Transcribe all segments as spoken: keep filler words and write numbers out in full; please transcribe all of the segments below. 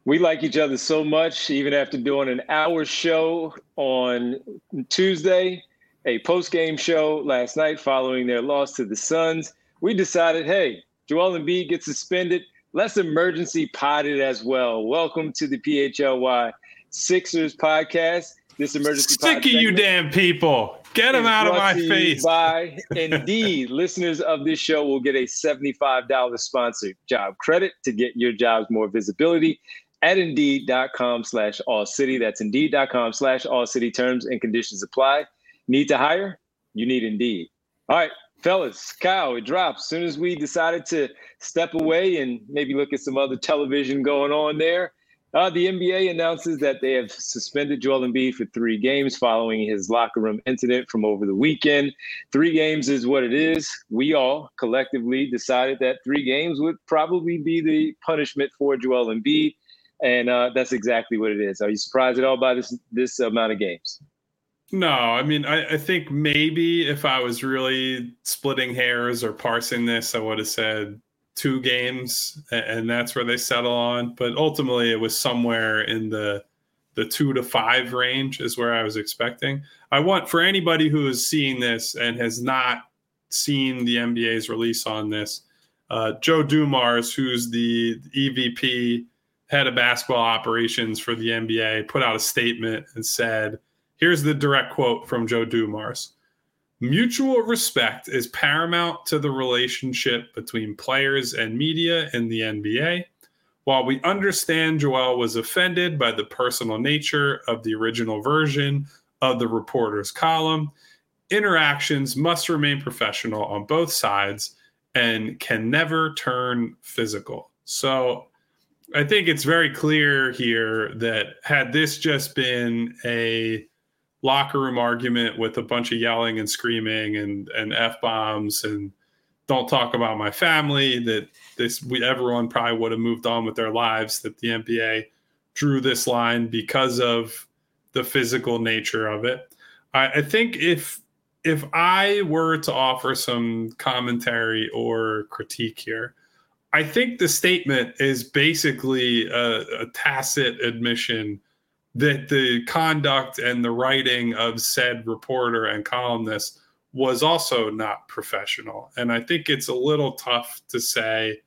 We like each other so much, even after doing an hour show on Tuesday, a post-game show last night following their loss to the Suns. We decided, hey, Joel Embiid gets suspended. Let's emergency pod it as well. Welcome to the P H L Y Sixers podcast. This emergency Sick of you damn people. Get them out of my face. By Indeed. Listeners of this show will get a seventy-five dollars sponsored job credit to get your jobs more visibility at Indeed.com slash All City. That's Indeed.com slash All City. Terms and conditions apply. Need to hire? You need Indeed. All right, fellas, Kyle, it drops. As soon as we decided to step away and maybe look at some other television going on there, Uh, the N B A announces that they have suspended Joel Embiid for three games following his locker room incident from over the weekend. Three games is what it is. We all collectively decided that three games would probably be the punishment for Joel Embiid, and uh, that's exactly what it is. Are you surprised at all by this this amount of games? No, I mean, I, I think maybe if I was really splitting hairs or parsing this, I would have said two games, and that's where they settle on. But ultimately, it was somewhere in the the two to five range is where I was expecting. I want for anybody who is seeing this and has not seen the N B A's release on this, uh, Joe Dumars, who's the E V P, head of basketball operations for the N B A, put out a statement and said, here's the direct quote from Joe Dumars. Mutual respect is paramount to the relationship between players and media in the N B A. While we understand Joel was offended by the personal nature of the original version of the reporter's column, interactions must remain professional on both sides and can never turn physical. So I think it's very clear here that had this just been a locker room argument with a bunch of yelling and screaming and, and F-bombs and don't talk about my family, that this we everyone probably would have moved on with their lives, that the N B A drew this line because of the physical nature of it. I, I think if if I were to offer some commentary or critique here, I think the statement is basically a, a tacit admission that the conduct and the writing of said reporter and columnist was also not professional. And I think it's a little tough to say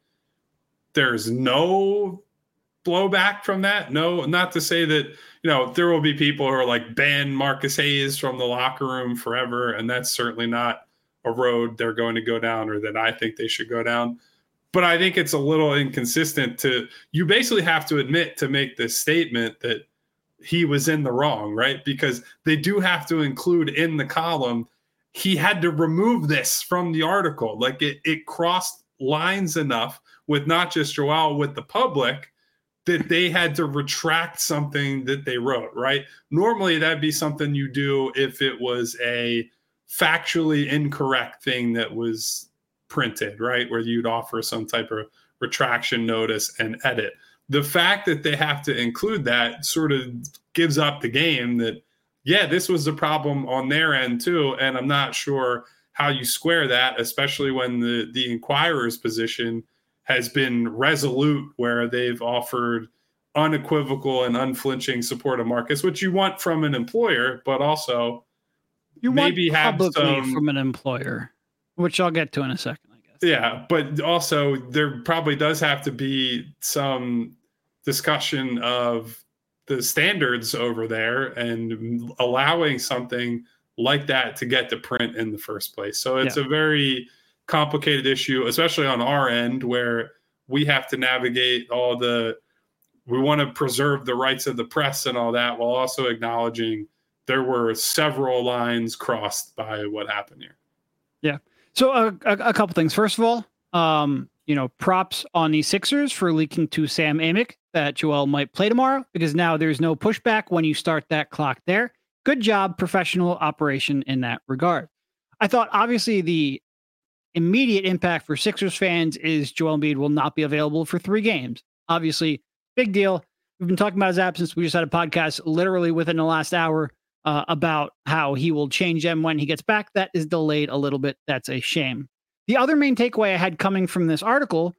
there's no blowback from that. No, not to say that, you know, there will be people who are like, ban Marcus Hayes from the locker room forever. And that's certainly not a road they're going to go down or that I think they should go down. But I think it's a little inconsistent to, you basically have to admit to make this statement that he was in the wrong, right? Because they do have to include in the column, he had to remove this from the article. Like it, it crossed lines enough with not just Joel, with the public, that they had to retract something that they wrote, right? Normally that'd be something you do if it was a factually incorrect thing that was printed, right? Where you'd offer some type of retraction notice and edit. The fact that they have to include that sort of gives up the game that, yeah, this was a problem on their end too. And I'm not sure how you square that, especially when the, the Inquirer's position has been resolute, where they've offered unequivocal and unflinching support of Marcus, which you want from an employer, but also you maybe want have publicly some, from an employer, which I'll get to in a second, I guess. Yeah, but also there probably does have to be some discussion of the standards over there and allowing something like that to get to print in the first place. So it's yeah. a very complicated issue, especially on our end, where we have to navigate all the, we want to preserve the rights of the press and all that, while also acknowledging there were several lines crossed by what happened here. Yeah. So uh, a, a couple things. First of all, um, you know, props on the Sixers for leaking to Sam Amick that Joel might play tomorrow, because now there's no pushback when you start that clock there. Good job, professional operation in that regard. I thought obviously the immediate impact for Sixers fans is Joel Embiid will not be available for three games. Obviously, big deal. We've been talking about his absence. We just had a podcast literally within the last hour uh, about how he will change them when he gets back. That is delayed a little bit. That's a shame. The other main takeaway I had coming from this article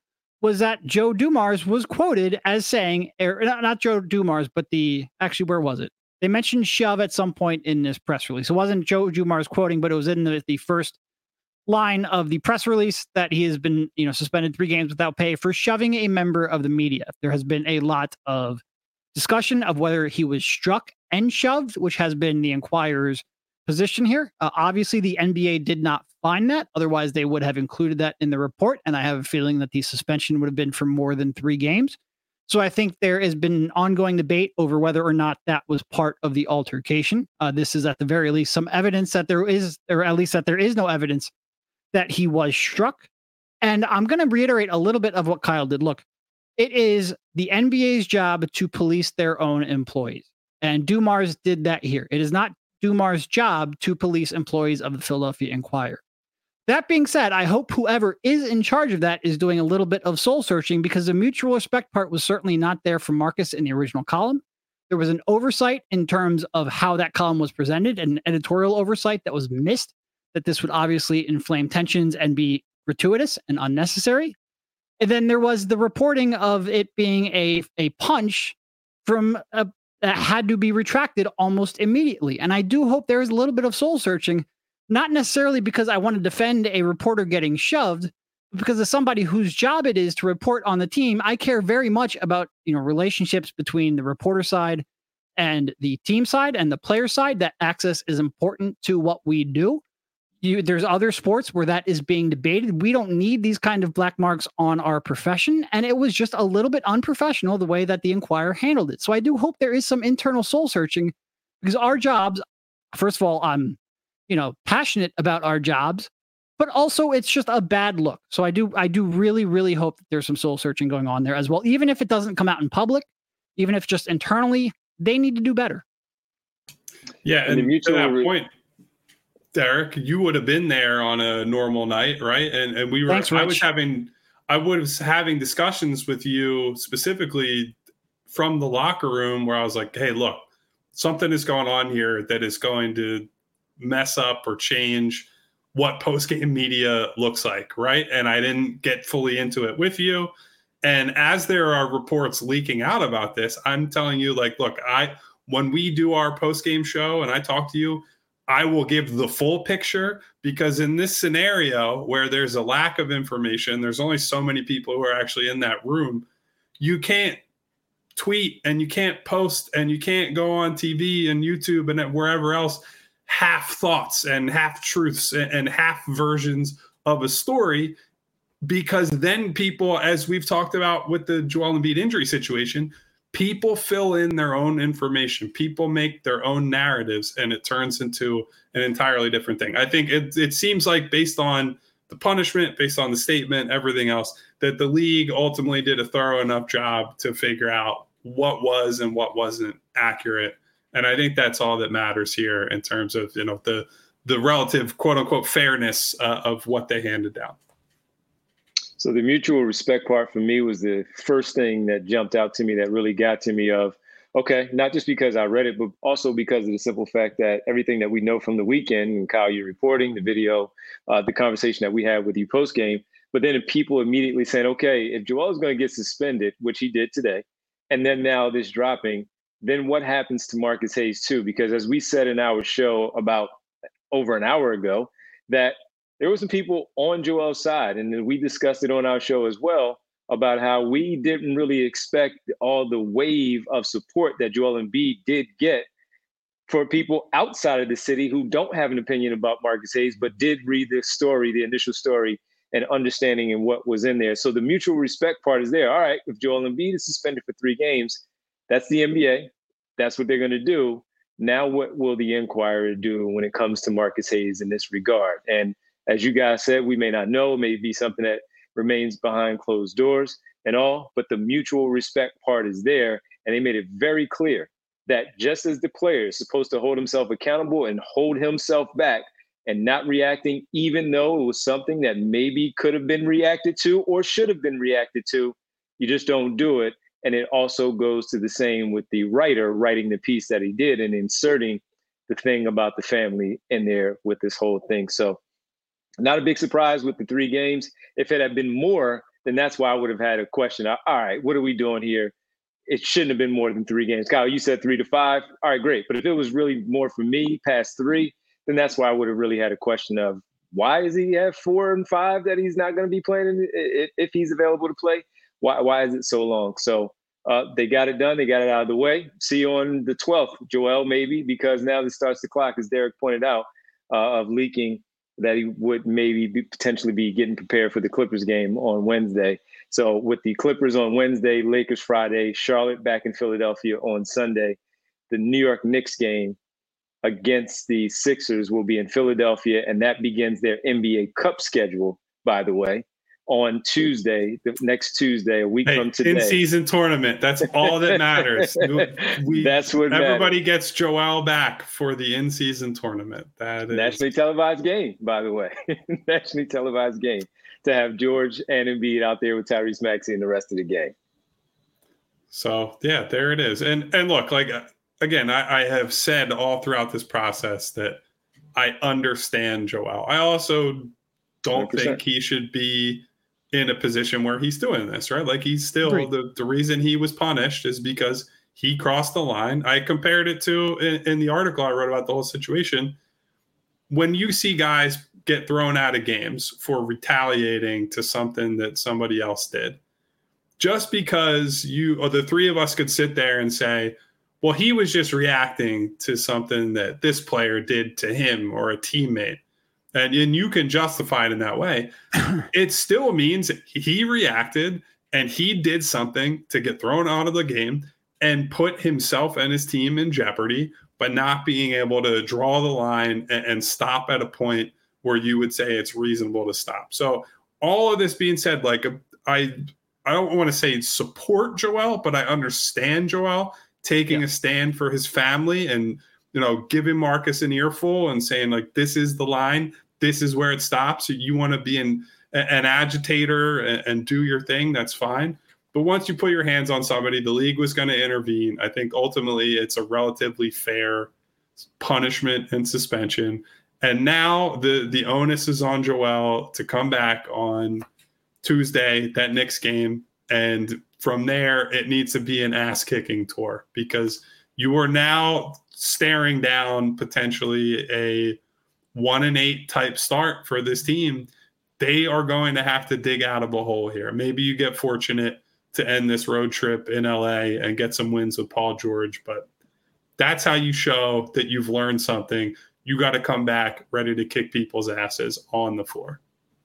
was that Joe Dumars was quoted as saying, er, not, not Joe Dumars, but the, actually, where was it? They mentioned shove at some point in this press release. It wasn't Joe Dumars quoting, but it was in the, the first line of the press release that he has been, you know, suspended three games without pay for shoving a member of the media. There has been a lot of discussion of whether he was struck and shoved, which has been the Enquirer's position here. Uh, obviously, the N B A did not find that. Otherwise, they would have included that in the report. And I have a feeling that the suspension would have been for more than three games. So I think there has been an ongoing debate over whether or not that was part of the altercation. Uh, this is at the very least some evidence that there is, or at least that there is no evidence that he was struck. And I'm going to reiterate a little bit of what Kyle did. Look, it is the N B A's job to police their own employees. And Dumars did that here. It is not Dumars' job to police employees of the Philadelphia Inquirer. That being said, I hope whoever is in charge of that is doing a little bit of soul searching, because the mutual respect part was certainly not there for Marcus in the original column. There was an oversight in terms of how that column was presented, an editorial oversight that was missed, that this would obviously inflame tensions and be gratuitous and unnecessary. And then there was the reporting of it being a, a punch from a, that had to be retracted almost immediately. And I do hope there is a little bit of soul searching, not necessarily because I want to defend a reporter getting shoved, but because as somebody whose job it is to report on the team, I care very much about, you know, relationships between the reporter side and the team side and the player side. That access is important to what we do. You, there's other sports where that is being debated. We don't need these kind of black marks on our profession. And it was just a little bit unprofessional the way that the Inquirer handled it. So I do hope there is some internal soul searching, because our jobs, first of all, I'm, you know, passionate about our jobs, but also it's just a bad look. So I do, I do really, really hope that there's some soul searching going on there as well. Even if it doesn't come out in public, even if just internally, they need to do better. Yeah. And, and to that point, Derek, you would have been there on a normal night, right? And and we were. Thanks, I was having, I was having discussions with you specifically from the locker room where I was like, "Hey, look, something is going on here that is going to mess up or change what post-game media looks like, right?" And I didn't get fully into it with you. And as there are reports leaking out about this, I'm telling you, like, look, I when we do our post-game show and I talk to you, I will give the full picture, because in this scenario where there's a lack of information, there's only so many people who are actually in that room. You can't tweet and you can't post and you can't go on T V and YouTube and wherever else half thoughts and half truths and half versions of a story, because then people, as we've talked about with the Joel Embiid injury situation, people fill in their own information. People make their own narratives, and it turns into an entirely different thing. I think it, it seems like, based on the punishment, based on the statement, everything else, that the league ultimately did a thorough enough job to figure out what was and what wasn't accurate. And I think that's all that matters here in terms of, you know, the the relative quote unquote fairness uh, of what they handed down. So the mutual respect part for me was the first thing that jumped out to me, that really got to me of, okay, not just because I read it, but also because of the simple fact that everything that we know from the weekend, and Kyle, you're reporting, the video, uh, the conversation that we had with you post game, but then people immediately saying, okay, if Joel is going to get suspended, which he did today, and then now this dropping, then what happens to Marcus Hayes too? Because as we said in our show about over an hour ago, that there were some people on Joel's side, and then we discussed it on our show as well, about how we didn't really expect all the wave of support that Joel Embiid did get for people outside of the city who don't have an opinion about Marcus Hayes, but did read the story, the initial story, and understanding and what was in there. So the mutual respect part is there. All right, if Joel Embiid is suspended for three games, that's the N B A. That's what they're going to do. Now what will the Inquirer do when it comes to Marcus Hayes in this regard? And as you guys said, we may not know. It may be something that remains behind closed doors and all, but the mutual respect part is there. And they made it very clear that just as the player is supposed to hold himself accountable and hold himself back and not reacting, even though it was something that maybe could have been reacted to or should have been reacted to, you just don't do it. And it also goes to the same with the writer writing the piece that he did and inserting the thing about the family in there with this whole thing. So not a big surprise with the three games. If it had been more, then that's why I would have had a question. All right, what are we doing here? It shouldn't have been more than three games. Kyle, you said three to five. All right, great. But if it was really more for me past three, then that's why I would have really had a question of why is he at four and five that he's not going to be playing if he's available to play? Why why is it so long? So uh, they got it done. They got it out of the way. See you on the twelfth, Joel, maybe, because now this starts the clock, as Derek pointed out, uh, of leaking that he would maybe be, potentially be getting prepared for the Clippers game on Wednesday. So with the Clippers on Wednesday, Lakers Friday, Charlotte back in Philadelphia on Sunday, the New York Knicks game against the Sixers will be in Philadelphia, and that begins their N B A Cup schedule, by the way, on Tuesday, the next Tuesday, a week hey, from today. In-season tournament. That's all that matters. We, That's what everybody matters. Gets Joel back for the in-season tournament. That is nationally televised game, by the way. Nationally televised game to have George and Embiid out there with Tyrese Maxey and the rest of the game. So yeah, there it is. And and look, like again, I, I have said all throughout this process that I understand Joel. I also don't one hundred percent think he should be in a position where he's doing this, right? Like he's still the, the reason he was punished is because he crossed the line. I compared it to in, in the article I wrote about the whole situation. When you see guys get thrown out of games for retaliating to something that somebody else did, just because you or the three of us could sit there and say, well, he was just reacting to something that this player did to him or a teammate. And, and you can justify it in that way. It still means he reacted and he did something to get thrown out of the game and put himself and his team in jeopardy by not being able to draw the line and, and stop at a point where you would say it's reasonable to stop. So all of this being said, like I, I don't want to say support Joel, but I understand Joel taking yeah. a stand for his family and, you know, giving Marcus an earful and saying like, this is the line. This is where it stops. You want to be an, an agitator and, and do your thing. That's fine. But once you put your hands on somebody, the league was going to intervene. I think ultimately it's a relatively fair punishment and suspension. And now the, the onus is on Joel to come back on Tuesday, that Knicks game. And from there, it needs to be an ass-kicking tour because you are now staring down potentially a one and eight type start for this team. They are going to have to dig out of a hole here. Maybe you get fortunate to end this road trip in L A and get some wins with Paul George, but that's how you show that you've learned something. You got to come back ready to kick people's asses on the floor.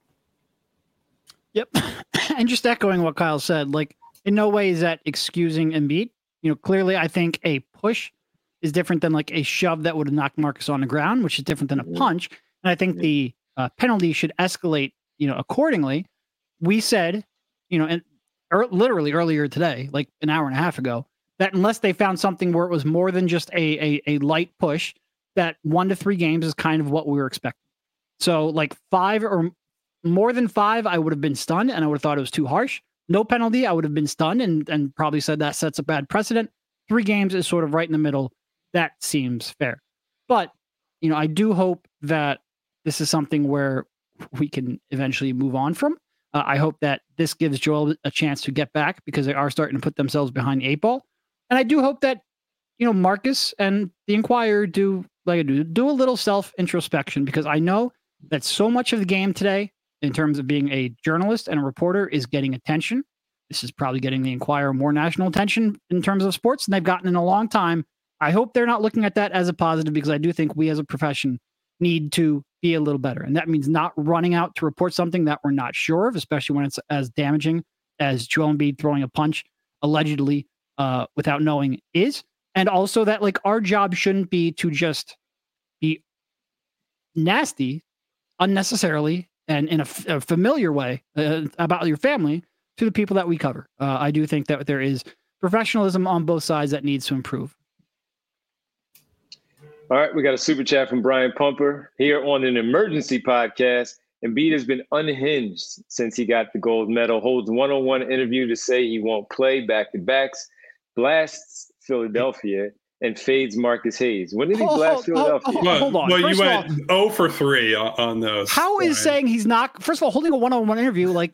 Yep. And just echoing what Kyle said, like in no way is that excusing Embiid. You know, clearly I think a push is different than like a shove that would have knocked Marcus on the ground, which is different than a punch. And I think the uh, penalty should escalate, you know, accordingly. We said, you know, and er, literally earlier today, like an hour and a half ago, that unless they found something where it was more than just a, a, a light push, that one to three games is kind of what we were expecting. So like five or more than five, I would have been stunned and I would have thought it was too harsh. No penalty, I would have been stunned and, and probably said that sets a bad precedent. Three games is sort of right in the middle. That seems fair. But, you know, I do hope that this is something where we can eventually move on from. Uh, I hope that this gives Joel a chance to get back because they are starting to put themselves behind the eight ball. And I do hope that, you know, Marcus and the Inquirer do, like I do, do a little self-introspection because I know that so much of the game today, in terms of being a journalist and a reporter, is getting attention. This is probably getting the Inquirer more national attention in terms of sports than they've gotten in a long time. I hope they're not looking at that as a positive because I do think we as a profession need to be a little better. And that means not running out to report something that we're not sure of, especially when it's as damaging as Joel Embiid throwing a punch allegedly uh, without knowing is. And also that like our job shouldn't be to just be nasty unnecessarily and in a, f- a familiar way uh, about your family to the people that we cover. Uh, I do think that there is professionalism on both sides that needs to improve. All right, we got a super chat from Brian Pumper here on an emergency podcast. Embiid has been unhinged since he got the gold medal, holds one-on-one interview to say he won't play back-to-backs, blasts Philadelphia, and fades Marcus Hayes. When did he blast oh, oh, Philadelphia? Oh, oh, hold on. Well, first you went all, zero for three on, on those. How Brian. is saying he's not, first of all, holding a one-on-one interview, like,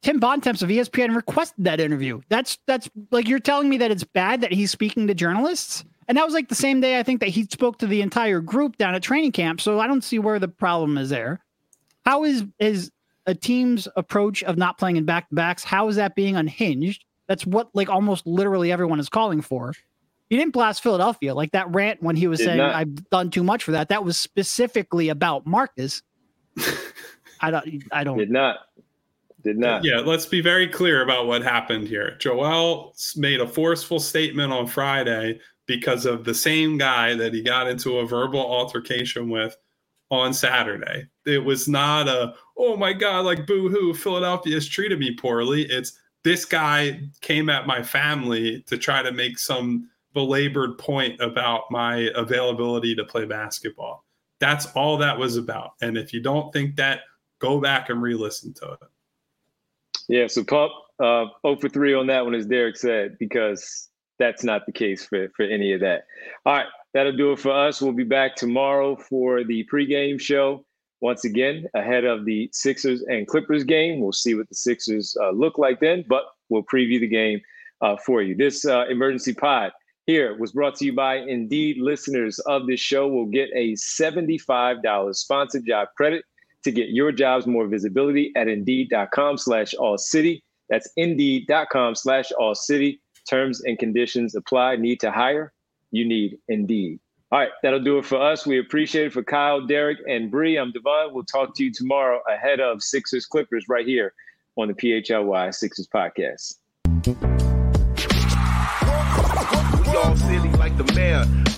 Tim Bontemps of E S P N requested that interview. That's that's like you're telling me that it's bad that he's speaking to journalists, and that was like the same day I think that he spoke to the entire group down at training camp. So I don't see where the problem is there. How is is a team's approach of not playing in back to backs? How is that being unhinged? That's what like almost literally everyone is calling for. He didn't blast Philadelphia like that rant when he was Did saying not. I've done too much for that. That was specifically about Marcus. I don't. I don't. Did not. Did not. Yeah, let's be very clear about what happened here. Joel made a forceful statement on Friday because of the same guy that he got into a verbal altercation with on Saturday. It was not a, oh my God, like boo-hoo, Philadelphia has treated me poorly. It's this guy came at my family to try to make some belabored point about my availability to play basketball. That's all that was about. And if you don't think that, go back and re-listen to it. Yeah, so Pump, uh, zero for three on that one, as Derek said, because that's not the case for, for any of that. All right, that'll do it for us. We'll be back tomorrow for the pregame show. Once again, ahead of the Sixers and Clippers game. We'll see what the Sixers uh, look like then, but we'll preview the game uh, for you. This uh, emergency pod here was brought to you by Indeed. Listeners of this show will get a seventy-five dollars sponsored job credit to get your jobs more visibility at Indeed.com slash All City. That's Indeed.com slash All City. Terms and conditions apply. Need to hire? You need Indeed. All right, that'll do it for us. We appreciate it. For Kyle, Derek, and Bree, I'm Devon. We'll talk to you tomorrow ahead of Sixers Clippers right here on the P H L Y Sixers podcast. We all silly like the mayor.